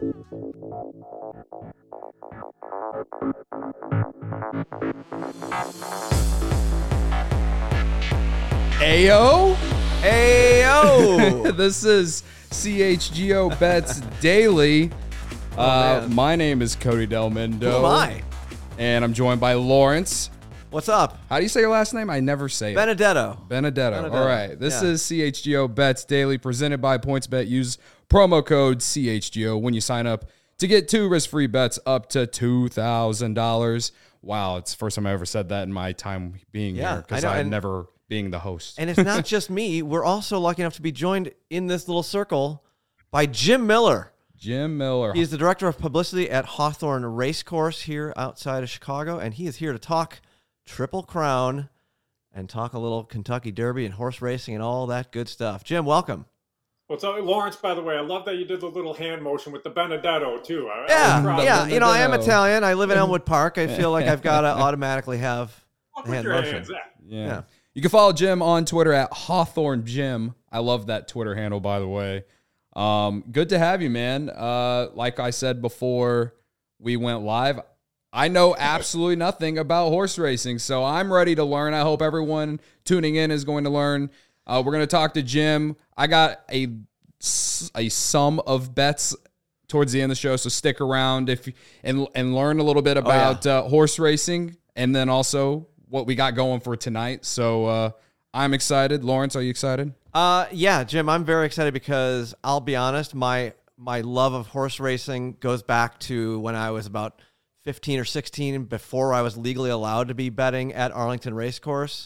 Ayo! Ayo! This is CHGO Bets Daily. My name is Cody Del Mundo. Who am I? And I'm joined by Lawrence. What's up? How do you say your last name? I never say it. Benedetto. Benedetto. All right. This Yeah. is CHGO Bets Daily presented by PointsBet. Use promo code CHGO when you sign up to get 2 risk-free bets up to $2,000. Wow, it's the first time I ever said that in my time being Yeah, here because I know, I'm and- never being the host. And it's not just me. We're also lucky enough to be joined in this little circle by Jim Miller. Jim Miller. He's the director of publicity at Hawthorne Racecourse here outside of Chicago, and he is here to talk Triple Crown and talk a little Kentucky Derby and horse racing and all that good stuff. Jim, welcome. What's up, Lawrence? By the way, I love that you did the little hand motion with the Benedetto too. I was proud of Yeah. you. You know, I am Benedetto. Italian. I live in Elmwood Park. I feel like I've got to automatically have Walk the with hand your motion. hands. Yeah. Yeah. You can follow Jim on Twitter at Hawthorne Jim. I love that Twitter handle, by the way. Good to have you, man. Like I said before we went live, I know absolutely nothing about horse racing, so I'm ready to learn. I hope everyone tuning in is going to learn. We're going to talk to Jim. I got a sum of bets towards the end of the show, so stick around and learn a little bit about horse racing, and then also what we got going for tonight. So I'm excited. Lawrence, are you excited? Yeah, Jim, I'm very excited because I'll be honest, my love of horse racing goes back to when I was about 15 or 16, before I was legally allowed to be betting at Arlington Racecourse,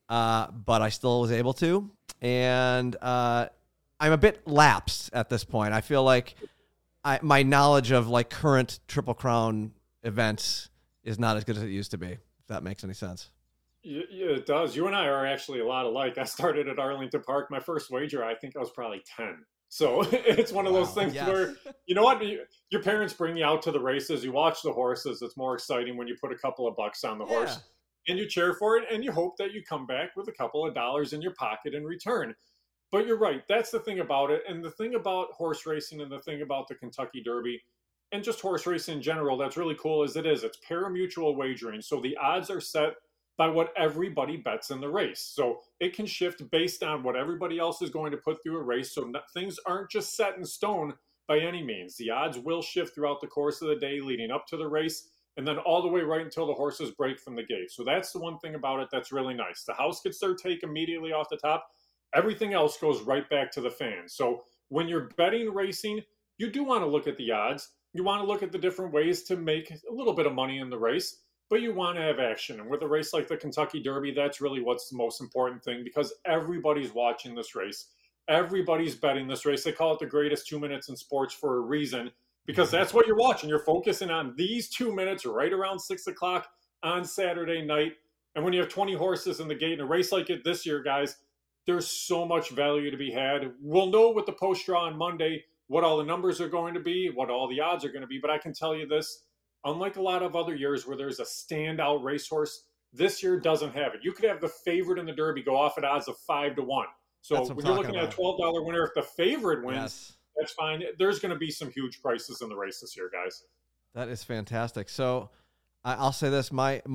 but I still was able to. And I'm a bit lapsed at this point. I feel like my knowledge of like current Triple Crown events is not as good as it used to be, if that makes any sense. Yeah, it does. You and I are actually a lot alike. I started at Arlington Park. My first wager, I think I was probably 10. So it's one of those things Yes. where, you know what, your parents bring you out to the races, you watch the horses. It's more exciting when you put a couple of bucks on the horse and you cheer for it and you hope that you come back with a couple of dollars in your pocket in return. But you're right. That's the thing about it. And the thing about horse racing and the thing about the Kentucky Derby and just horse racing in general that's really cool is it's pari-mutuel wagering. So the odds are set by what everybody bets in the race. So it can shift based on what everybody else is going to put through a race. So things aren't just set in stone by any means. The odds will shift throughout the course of the day leading up to the race and then all the way right until the horses break from the gate. So that's the one thing about it that's really nice. The house gets their take immediately off the top. Everything else goes right back to the fans. So when you're betting racing, you do want to look at the odds. You want to look at the different ways to make a little bit of money in the race. But you want to have action. And with a race like the Kentucky Derby, that's really what's the most important thing because everybody's watching this race. Everybody's betting this race. They call it the greatest 2 minutes in sports for a reason because that's what you're watching. You're focusing on these 2 minutes right around 6 o'clock on Saturday night. And when you have 20 horses in the gate in a race like it this year, guys, there's so much value to be had. We'll know with the post draw on Monday what all the numbers are going to be, what all the odds are going to be. But I can tell you this. Unlike a lot of other years where there's a standout racehorse, this year doesn't have it. You could have the favorite in the Derby go off at odds of 5-1. So when you're looking at a $12 winner, if the favorite wins, that's fine. There's going to be some huge prices in the race this year, guys. That is fantastic. So I'll say this: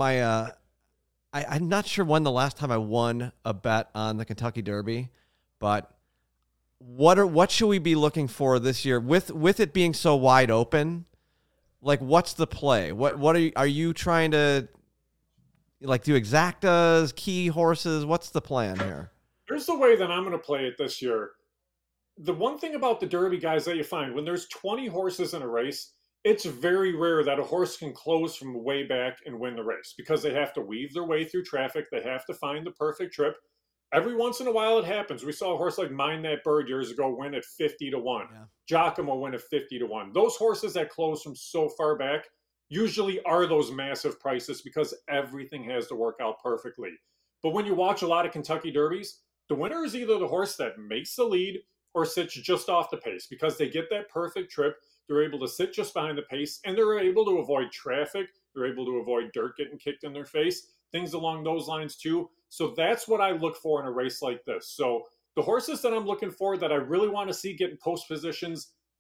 I'm not sure when the last time I won a bet on the Kentucky Derby, but what should we be looking for this year with it being so wide open? Like, what's the play? What are you trying to like do exactas, key horses? What's the plan here? Here's the way that I'm going to play it this year. The one thing about the Derby, guys, that you find when there's 20 horses in a race, it's very rare that a horse can close from way back and win the race because they have to weave their way through traffic. They have to find the perfect trip. Every once in a while it happens. We saw a horse like Mind That Bird years ago win at 50-1. Yeah. Giacomo win at 50-1. Those horses that close from so far back usually are those massive prices because everything has to work out perfectly. But when you watch a lot of Kentucky Derbies, the winner is either the horse that makes the lead or sits just off the pace because they get that perfect trip. They're able to sit just behind the pace and they're able to avoid traffic. They're able to avoid dirt getting kicked in their face, things along those lines too. So that's what I look for in a race like this. So the horses that I'm looking for that I really want to see get in post positions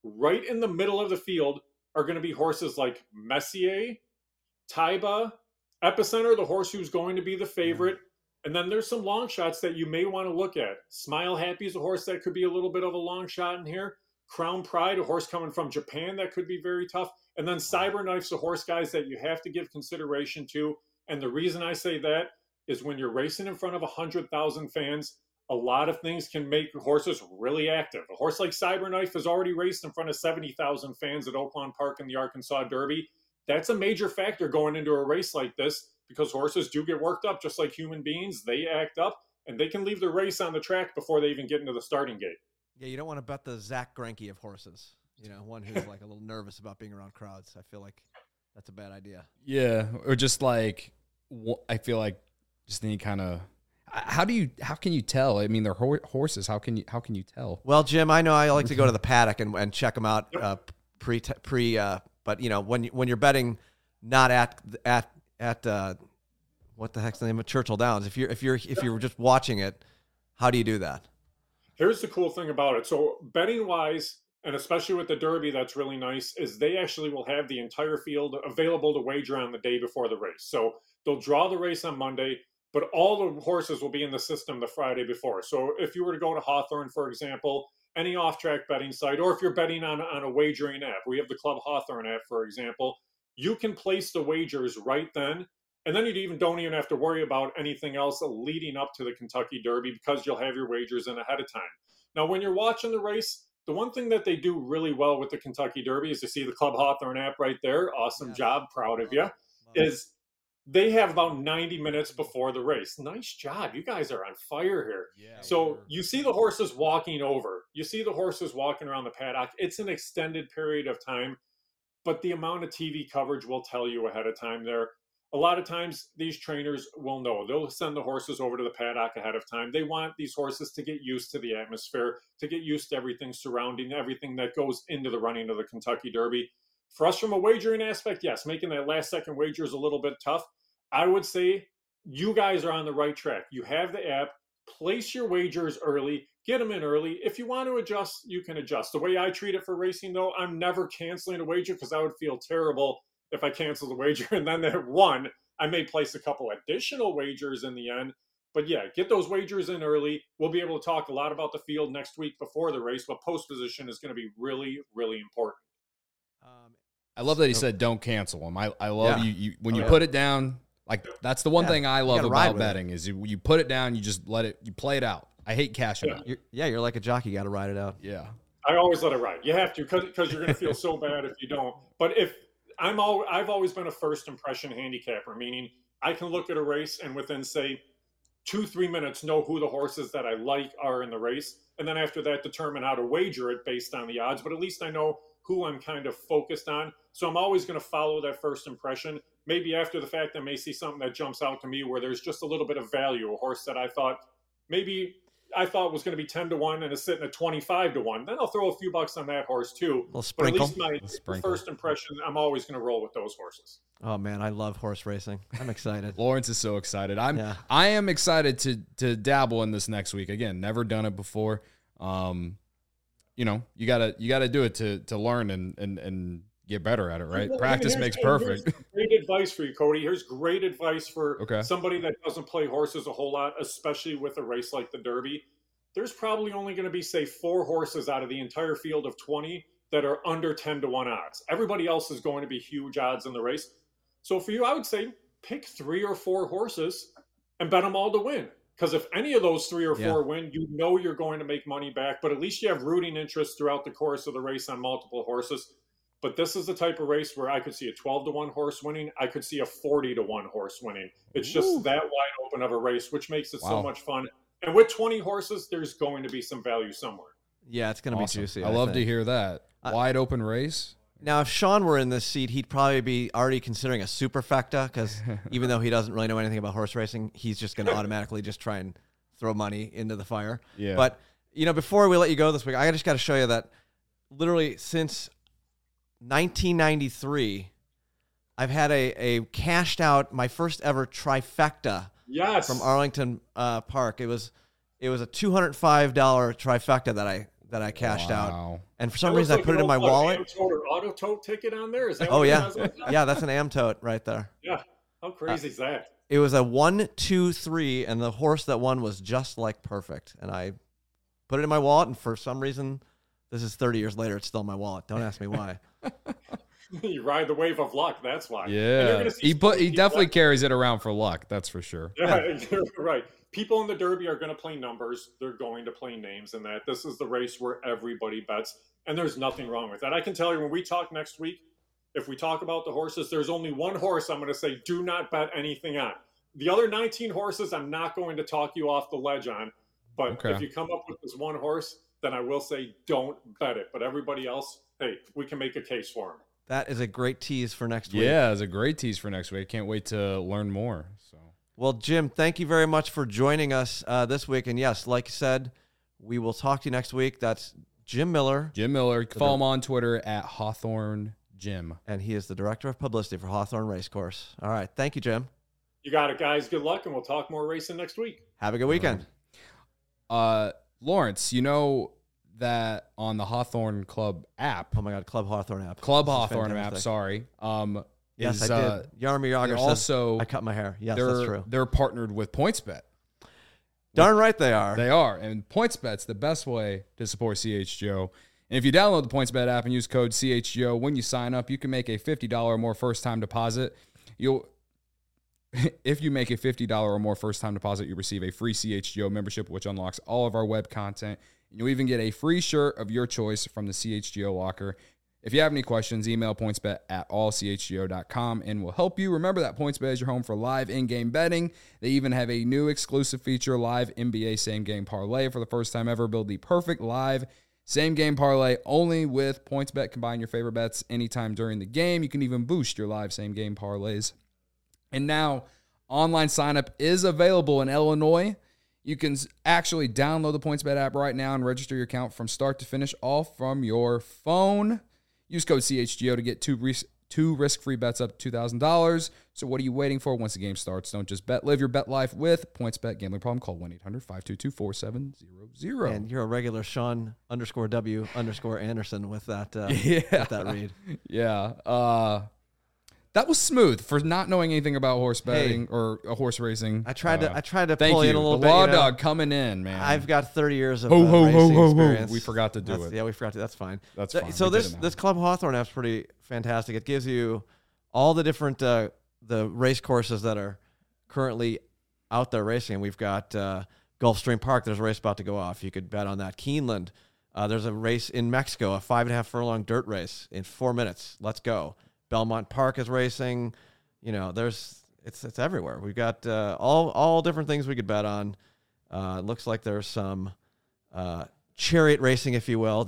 Right in the middle of the field are going to be horses like Messier, Taiba, Epicenter, the horse who's going to be the favorite. And then there's some long shots that you may want to look at. Smile Happy is a horse that could be a little bit of a long shot in here. Crown Pride, a horse coming from Japan that could be very tough. And then Cyberknife's a horse, guys, that you have to give consideration to. And the reason I say that is when you're racing in front of 100,000 fans, a lot of things can make horses really active. A horse like Cyberknife has already raced in front of 70,000 fans at Oaklawn Park in the Arkansas Derby. That's a major factor going into a race like this, because horses do get worked up just like human beings. They act up, and they can leave the race on the track before they even get into the starting gate. Yeah, you don't want to bet the Zach Greinke of horses. You know, one who's like a little nervous about being around crowds. I feel like that's a bad idea. Yeah, or just like, I feel like just any kind of. How can you tell? I mean, they're horses. How can you tell? Well, Jim, I know I like to go to the paddock and check them out but you know, when you're betting not at what the heck's the name of Churchill Downs, if you're just watching it, how do you do that? Here's the cool thing about it. So betting wise, and especially with the Derby, that's really nice, is they actually will have the entire field available to wager on the day before the race. So they'll draw the race on Monday, but all the horses will be in the system the Friday before. So if you were to go to Hawthorne, for example, any off-track betting site, or if you're betting on a wagering app, we have the Club Hawthorne app, for example, you can place the wagers right then. And then you don't even have to worry about anything else leading up to the Kentucky Derby, because you'll have your wagers in ahead of time. Now, when you're watching the race, the one thing that they do really well with the Kentucky Derby is, you see the Club Hawthorne app right there. Awesome job. Proud of you. Is they have about 90 minutes before the race. Nice job. You guys are on fire here. Yeah, so you see the horses walking over. You see the horses walking around the paddock. It's an extended period of time, but the amount of TV coverage will tell you ahead of time there. A lot of times these trainers will know. They'll send the horses over to the paddock ahead of time. They want these horses to get used to the atmosphere, to get used to everything surrounding, everything that goes into the running of the Kentucky Derby. For us, from a wagering aspect, yes, making that last second wager is a little bit tough. I would say you guys are on the right track. You have the app. Place your wagers early. Get them in early. If you want to adjust, you can adjust. The way I treat it for racing, though, I'm never canceling a wager, because I would feel terrible if I cancel the wager and then they won. I may place a couple additional wagers in the end. But yeah, get those wagers in early. We'll be able to talk a lot about the field next week before the race, but post position is going to be really, really important. I love that he said don't cancel them. I love you when you put it down. Like, that's the one thing I love about betting is you put it down, you just let it, you play it out. I hate cashing out. You're like a jockey, you got to ride it out. Yeah. I always let it ride. You have to, because you're going to feel so bad if you don't. But I've always been a first impression handicapper, meaning I can look at a race and within, say, 2-3 minutes know who the horses that I like are in the race. And then after that, determine how to wager it based on the odds. But at least I know who I'm kind of focused on. So I'm always going to follow that first impression. Maybe after the fact, I may see something that jumps out to me where there's just a little bit of value, a horse that I thought was going to be 10-1 and is sitting at 25-1. Then I'll throw a few bucks on that horse too. But at least my first impression, I'm always going to roll with those horses. Oh man, I love horse racing. I'm excited. Lawrence is so excited. I am excited to dabble in this next week. Again, never done it before. You know, you gotta do it to learn and get better at it, right? Practice makes perfect. Great advice for you, Cody. Here's great advice for somebody that doesn't play horses a whole lot, especially with a race like the Derby. There's probably only going to be, say, 4 horses out of the entire field of 20 that are under 10-1 odds. Everybody else is going to be huge odds in the race. So for you, I would say pick 3 or 4 horses and bet them all to win. Because if any of those 3 or 4 win, you know you're going to make money back. But at least you have rooting interest throughout the course of the race on multiple horses. But this is the type of race where I could see a 12-1 horse winning. I could see a 40-1 horse winning. It's just that wide open of a race, which makes it so much fun. And with 20 horses, there's going to be some value somewhere. Yeah, it's going to be juicy. I love to hear that. Wide open race. Now, if Sean were in this seat, he'd probably be already considering a superfecta, because even though he doesn't really know anything about horse racing, he's just going to automatically just try and throw money into the fire. Yeah. But, you know, before we let you go this week, I just got to show you that literally since 1993, I've had a cashed out, my first ever trifecta from Arlington Park. It was a $205 trifecta that I cashed out. Wow. And for some That reason, I looks put like it in my an wallet. Am Tote or Auto Tote ticket on there? Is that Oh, what it yeah. has on that? Yeah, that's an Am Tote right there. Yeah. How crazy is that? It was a 1, 2, 3, and the horse that won was just like perfect. And I put it in my wallet, and for some reason, this is 30 years later, it's still in my wallet. Don't ask me why. You ride the wave of luck. That's why. And you're Yeah. gonna see He so many people definitely carries it around for luck. That's for sure. Yeah, you're right. People in the Derby are going to play numbers. They're going to play names and that. This is the race where everybody bets, and there's nothing wrong with that. I can tell you when we talk next week, if we talk about the horses, there's only one horse I'm going to say do not bet anything on. The other 19 horses, I'm not going to talk you off the ledge on. But Okay. if you come up with this one horse, then I will say don't bet it. But everybody else, hey, we can make a case for him. That is a great tease for next week. Yeah, it's a great tease for next week. Can't wait to learn more. So Well, Jim, thank you very much for joining us this week. And yes, like you said, we will talk to you next week. That's Jim Miller. Jim Miller, follow him on Twitter at Hawthorne Jim. And he is the director of publicity for Hawthorne Racecourse. All right. Thank you, Jim. You got it, guys. Good luck, and we'll talk more racing next week. Have a good weekend. Lawrence, you know that on the Hawthorne Club app, Oh, my God. Club Hawthorne app. Club This is Hawthorne app, fantastic. sorry. Yes, is, I did. Yarmir Yager they're says also I cut my hair. Yes, that's true. they're partnered with PointsBet. Darn right they are. They are. And PointsBet's the best way to support CHGO. And if you download the PointsBet app and use code CHGO when you sign up, you can make a $50 or more first-time deposit. If you make a $50 or more first-time deposit, you receive a free CHGO membership, which unlocks all of our web content. You'll even get a free shirt of your choice from the CHGO locker. If you have any questions, email pointsbet@allchgo.com and we'll help you. Remember that PointsBet is your home for live in-game betting. They even have a new exclusive feature, Live NBA Same-Game Parlay. For the first time ever, build the perfect live same-game parlay only with PointsBet. Combine your favorite bets anytime during the game. You can even boost your live same-game parlays. And now, online sign-up is available in Illinois. You can actually download the PointsBet app right now and register your account from start to finish, all from your phone. Use code CHGO to get two risk-free bets up to $2,000. So what are you waiting for? Once the game starts, don't just bet. Live your bet life with PointsBet. Gambling problem? Call 1-800-522-4700. And you're a regular Sean_W_Anderson with that, Yeah. with that read. Yeah. That was smooth for not knowing anything about horse betting or horse racing. I tried to Thank pull you. in a little the bit. Law you know. Dog coming in, man. I've got 30 years of Ho, ho, ho, racing ho, ho. experience. We forgot to do That's- it. Yeah, we forgot to. That's fine. That's fine. So We did this it now. this Club Hawthorne app's pretty fantastic. It gives you all the different the race courses that are currently out there racing. We've got Gulfstream Park. There's a race about to go off. You could bet on that. Keeneland. There's a race in Mexico, a 5.5 furlong dirt race in 4 minutes. Let's go. Belmont Park is racing. You know, it's everywhere. We've got all different things we could bet on. It looks like there's some chariot racing, if you will.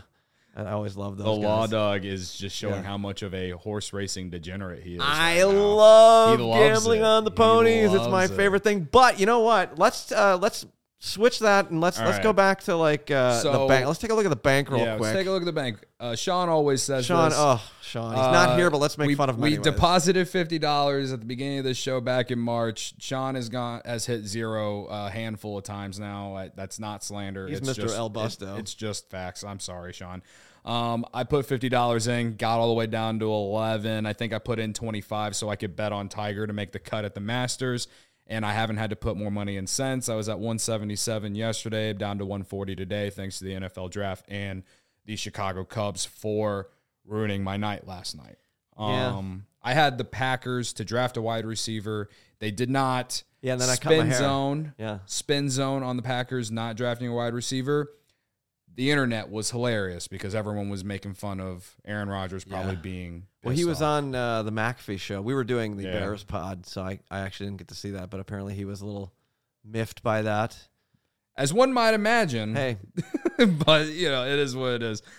I always love those. The guys. Law Dog is just showing Yeah. how much of a horse racing degenerate he is. I right now. love He loves gambling it. on the He ponies. It's my loves it. favorite thing. But you know what? Let's switch that and let's right. go back to like the So- bank. Let's take a look at the bank real Yeah, quick. let's take a look at the bank. Sean always says Sean, this. Sean, he's not here, but let's make we, fun of him. We anyways. deposited $50 at the beginning of the show back in March. Sean has hit zero a handful of times now. That's not slander. He's it's Mr. just, El Busto. It's just facts. I'm sorry, Sean. I put $50 in, got all the way down to 11. I think I put in 25 so I could bet on Tiger to make the cut at the Masters. And I haven't had to put more money in since. I was at 177 yesterday, down to 140 today, thanks to the NFL draft and the Chicago Cubs for ruining my night last night. Yeah. I had the Packers to draft a wide receiver. They did not. Yeah, and then I cut my hair. Zone. Yeah. Spin zone on the Packers not drafting a wide receiver. The internet was hilarious because everyone was making fun of Aaron Rodgers probably being. Well, he pissed was off. on the McAfee show. We were doing the Yeah. Bears pod, so I actually didn't get to see that, but apparently he was a little miffed by that. As one might imagine. Hey, but it is what it is.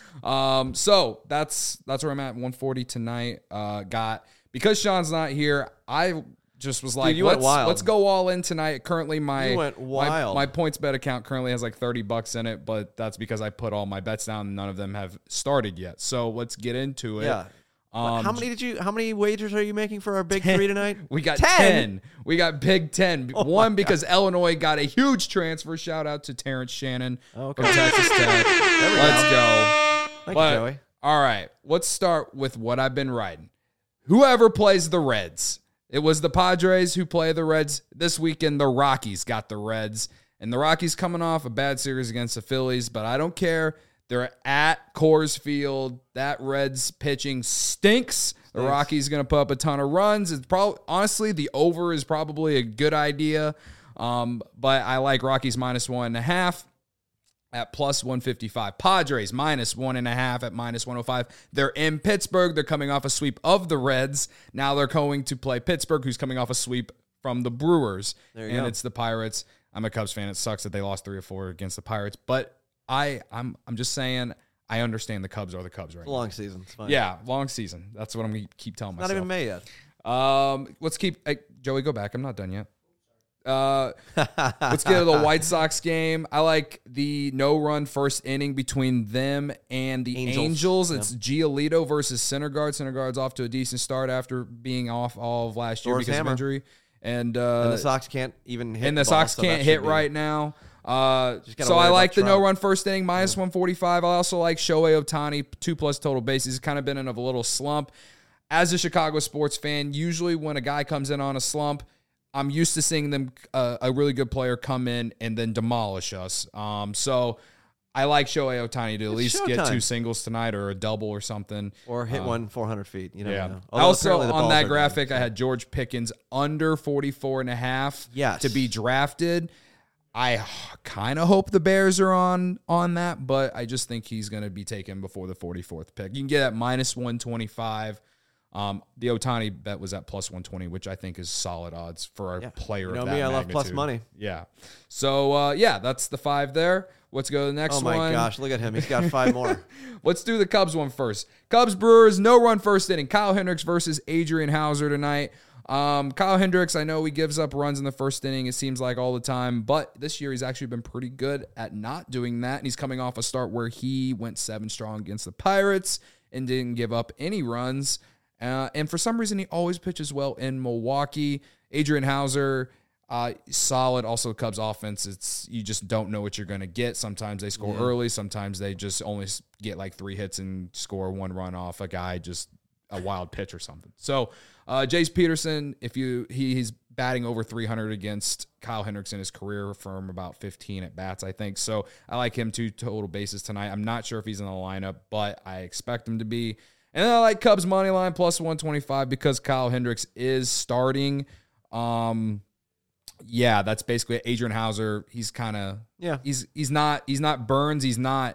So that's where I'm at. 140 tonight. Because Sean's not here, I just was like, you went wild. let's go all in tonight. Currently, You went wild. My PointsBet account currently has like $30 in it, but that's because I put all my bets down and none of them have started yet. So let's get into it. yeah. How many wagers are you making for our big 3 tonight? We got 10. We got big 10. One, because Illinois got a huge transfer. Shout out to Terrence Shannon from Texas Tech. Let's go. Thank you, Joey. All right, let's start with what I've been writing. Whoever plays the Reds. It was the Padres who play the Reds. This weekend, the Rockies got the Reds. And the Rockies coming off a bad series against the Phillies, but I don't care. They're at Coors Field. That Reds pitching stinks. The Rockies going to put up a ton of runs. It's probably, honestly, the over is probably a good idea. But I like Rockies -1.5 at +155. Padres -1.5 at -105. They're in Pittsburgh. They're coming off a sweep of the Reds. Now they're going to play Pittsburgh, who's coming off a sweep from the Brewers. And it's the Pirates. I'm a Cubs fan. It sucks that they lost 3 or 4 against the Pirates, but I'm just saying I understand the Cubs are the Cubs right now. Long season. It's fine. Yeah, long season. That's what I'm going to keep telling myself. Not even May yet. Let's keep Joey, go back. I'm not done yet. Let's get to the White Sox game. I like the no-run first inning between them and the Angels. It's Giolito versus Syndergaard. Syndergaard's off to a decent start after being off all of last year because of injury. And the Sox can't even hit. And the Sox can't hit right now. So I like the no-run first inning, -145. I also like Shohei Ohtani, 2+ total bases. He's kind of been in a little slump. As a Chicago sports fan, usually when a guy comes in on a slump, I'm used to seeing them, a really good player come in and then demolish us. So I like Shohei Ohtani to at least get 2 singles tonight or a double or something. Or hit one 400 feet. You never know. Also, on that graphic, I had George Pickens under 44.5 to be drafted. I kind of hope the Bears are on that, but I just think he's going to be taken before the 44th pick. You can get at -125. The Ohtani bet was at +120, which I think is solid odds for a player of that magnitude. I love plus money. Yeah. So, that's the 5 there. Let's go to the next one. Oh, my gosh. Look at him. He's got 5 more. Let's do the Cubs one first. Cubs Brewers, no-run first inning. Kyle Hendricks versus Adrian Hauser tonight. Kyle Hendricks, I know he gives up runs in the first inning, it seems like all the time, but this year he's actually been pretty good at not doing that, and he's coming off a start where he went 7 strong against the Pirates and didn't give up any runs. And for some reason, he always pitches well in Milwaukee. Adrian Hauser, solid. Also, the Cubs offense, you just don't know what you're going to get. Sometimes they score early. Sometimes they just only get like 3 hits and score 1 run off a guy, just a wild pitch or something. So, Jace Peterson, he's batting over 300 against Kyle Hendricks in his career from about 15 at bats, I think. So, I like him 2 total bases tonight. I'm not sure if he's in the lineup, but I expect him to be. And then I like Cubs money line +125 because Kyle Hendricks is starting. That's basically Adrian Hauser. He's kind of he's not Burns. He's not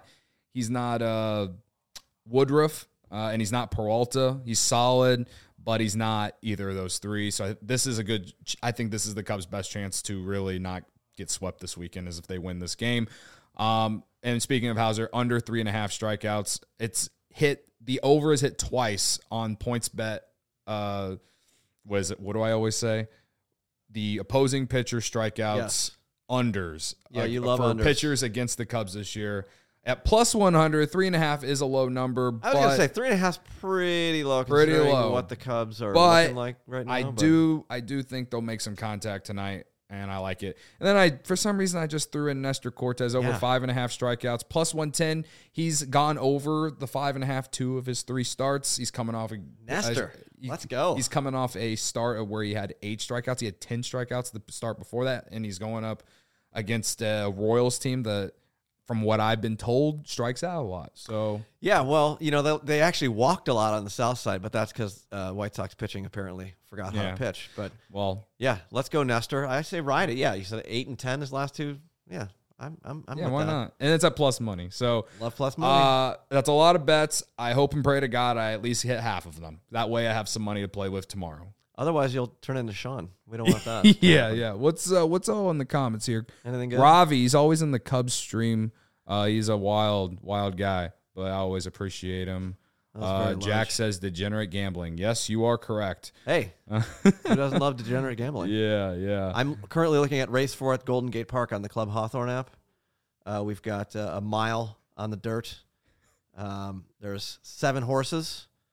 Woodruff, and he's not Peralta. He's solid, but he's not either of those 3. So I think this is the Cubs' best chance to really not get swept this weekend, is if they win this game. And speaking of Hauser, under 3.5 strikeouts, the over is hit twice on PointsBet. What do I always say? The opposing pitcher strikeouts, unders. Yeah, you love unders. Pitchers against the Cubs this year. At +100, 3.5 is a low number. I was going to say 3.5 is pretty low. Pretty low. What the Cubs are looking like right now. I do think they'll make some contact tonight, and I like it. And then for some reason, I just threw in Nestor Cortez over 5.5 strikeouts, +110. He's gone over the 5.5 2 of his 3 starts. He's coming off Nestor. Let's go. He's coming off a start where he had 8 strikeouts. He had 10 strikeouts the start before that, and he's going up against a Royals team that, from what I've been told, strikes out a lot. So yeah, well, they actually walked a lot on the south side, but that's because White Sox pitching apparently forgot how to pitch. But let's go Nestor. I say ride it. Yeah, you said 8 and 10 his last 2. Yeah, I'm with why that. not? And it's at plus money. So love plus money. That's a lot of bets. I hope and pray to God I at least hit half of them. That way I have some money to play with tomorrow. Otherwise, you'll turn into Sean. We don't want that. Yeah. What's all in the comments here? Anything good? Ravi, he's always in the Cubs stream. He's a wild guy, but I always appreciate him. Jack says degenerate gambling. Yes, you are correct. Hey, who doesn't love degenerate gambling? Yeah. I'm currently looking at Race 4 at Golden Gate Park on the Club Hawthorne app. We've got a mile on the dirt. There's 7 horses.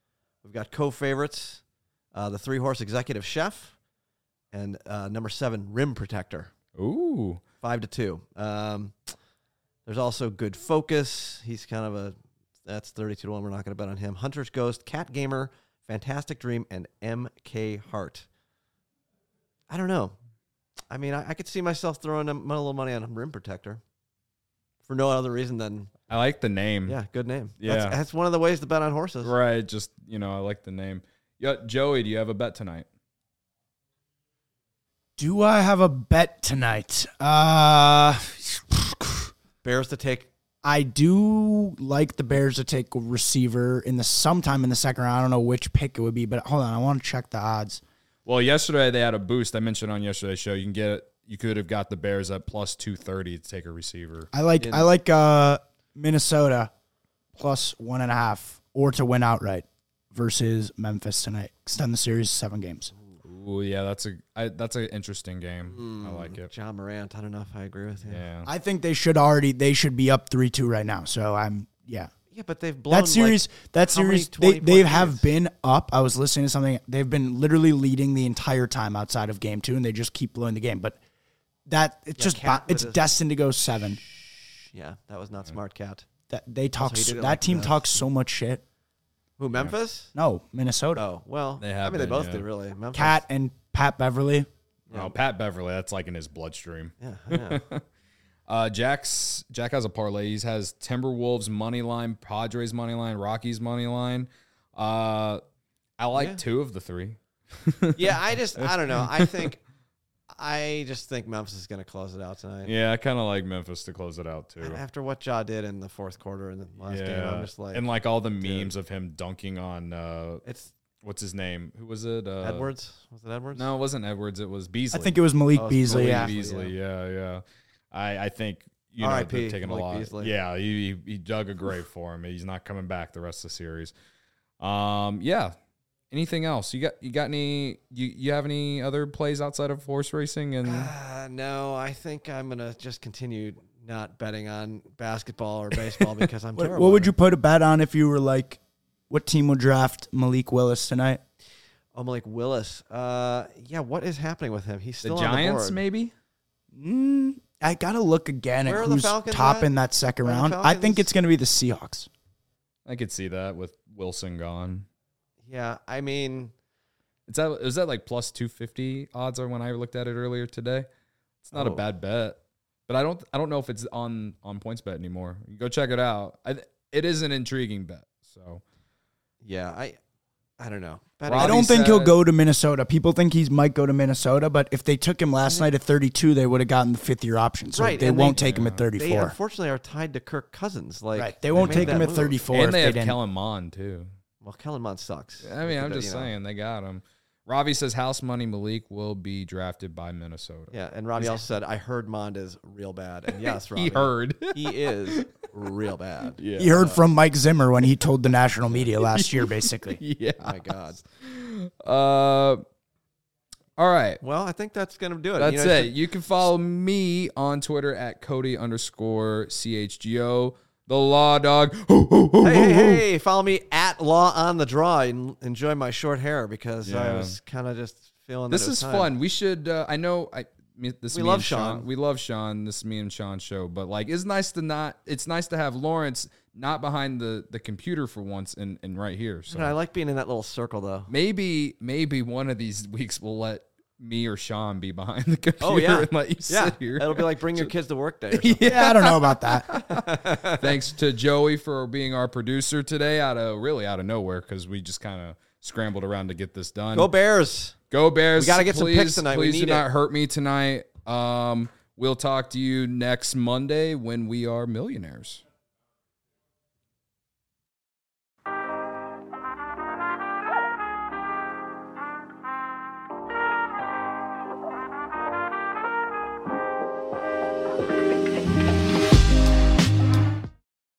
We've got co-favorites, the 3-horse Executive Chef, and number 7 Rim Protector. Ooh. 5-2. There's also Good Focus. He's kind of that's 32-1. We're not going to bet on him. Hunter's Ghost, Cat Gamer, Fantastic Dream, and MK Hart. I don't know. I mean, I could see myself throwing a little money on Rim Protector for no other reason than... I like the name. Yeah, good name. Yeah. That's one of the ways to bet on horses. Right. Just, I like the name. Yeah, Joey, do you have a bet tonight? Do I have a bet tonight? Bears to take. I do like the Bears to take a receiver sometime in the second round. I don't know which pick it would be, but hold on. I want to check the odds. Well, yesterday they had a boost. I mentioned on yesterday's show. You could have got the Bears at plus 230 to take a receiver. I like Minnesota plus 1.5 or to win outright versus Memphis tonight. Extend the series to 7 games. Ooh, yeah, that's an interesting game. I like it. John Morant. I don't know if I agree with you. Yeah. I think they should be up 3-2 right now. So yeah, but they've blown that series. They have been up. I was listening to something. They've been literally leading the entire time outside of game 2, and they just keep blowing the game. But it's destined to go 7. Yeah, that was not smart, Cat. That team talks so much shit. Who, Memphis? No, Minnesota. Oh, well, they both did, really. Memphis. Cat and Pat Beverly. Oh, Pat Beverly, that's like in his bloodstream. Yeah, I know. Jack has a parlay. He has Timberwolves money line, Padres money line, Rockies money line. I like 2 of the 3. Yeah, I don't know. I just think Memphis is going to close it out tonight. Yeah, I kind of like Memphis to close it out too. After what Ja did in the fourth quarter in the last game, I'm just like... And like all the memes of him dunking on... what's his name? Who was it? Edwards? Was it Edwards? No, it wasn't Edwards. It was Beasley. I think it was Malik Beasley. Beasley, yeah. I think, they're taking a lot. Beasley. Yeah, he dug a grave for him. He's not coming back the rest of the series. Yeah. Anything else? You got any? You have any other plays outside of horse racing? And no, I think I'm gonna just continue not betting on basketball or baseball because I'm terrible. What would you put a bet on if you were like, what team would draft Malik Willis tonight? Oh, Malik Willis. Yeah. What is happening with him? He's still the Giants, on the board. Maybe. I gotta look again at who's top in that second round. I think it's gonna be the Seahawks. I could see that with Wilson gone. Yeah, I mean, is that like plus 250 odds are when I looked at it earlier today? It's not a bad bet, but I don't know if it's on PointsBet anymore. You go check it out. It is an intriguing bet. So, yeah, I don't know. I don't think he'll go to Minnesota. People think he might go to Minnesota, but if they took him last night at 32, they would have gotten the 5th-year option. So they won't take him at 34. They unfortunately are tied to Kirk Cousins. They won't take him at 34. And they have Kellen Mond too. Well, Kellen Mond sucks. I mean, I'm just saying they got him. Robbie says house money Malik will be drafted by Minnesota. Yeah, and Robbie also said, I heard Mond is real bad. And yes, Robbie. He heard. He is real bad. Yeah. He heard from Mike Zimmer when he told the national media last year, basically. Yeah. Oh my God. All right. Well, I think that's going to do it. That's it. You can follow me on Twitter at Cody_CHGO. The Law Dog. Hey, follow me at Law on the Draw and enjoy my short hair because I was kind of just feeling this is fun. We should, we love Sean. We love Sean. This is me and Sean's show, but like, it's nice to have Lawrence not behind the computer for once and right here. So I like being in that little circle though. Maybe one of these weeks we'll let me or Sean be behind the computer and let you sit here. It'll be like bring your kids to work day. Yeah, I don't know about that. Thanks to Joey for being our producer today out of nowhere because we just kind of scrambled around to get this done. Go Bears. Go Bears. We got to get some picks tonight. Please do not hurt me tonight. We'll talk to you next Monday when we are millionaires.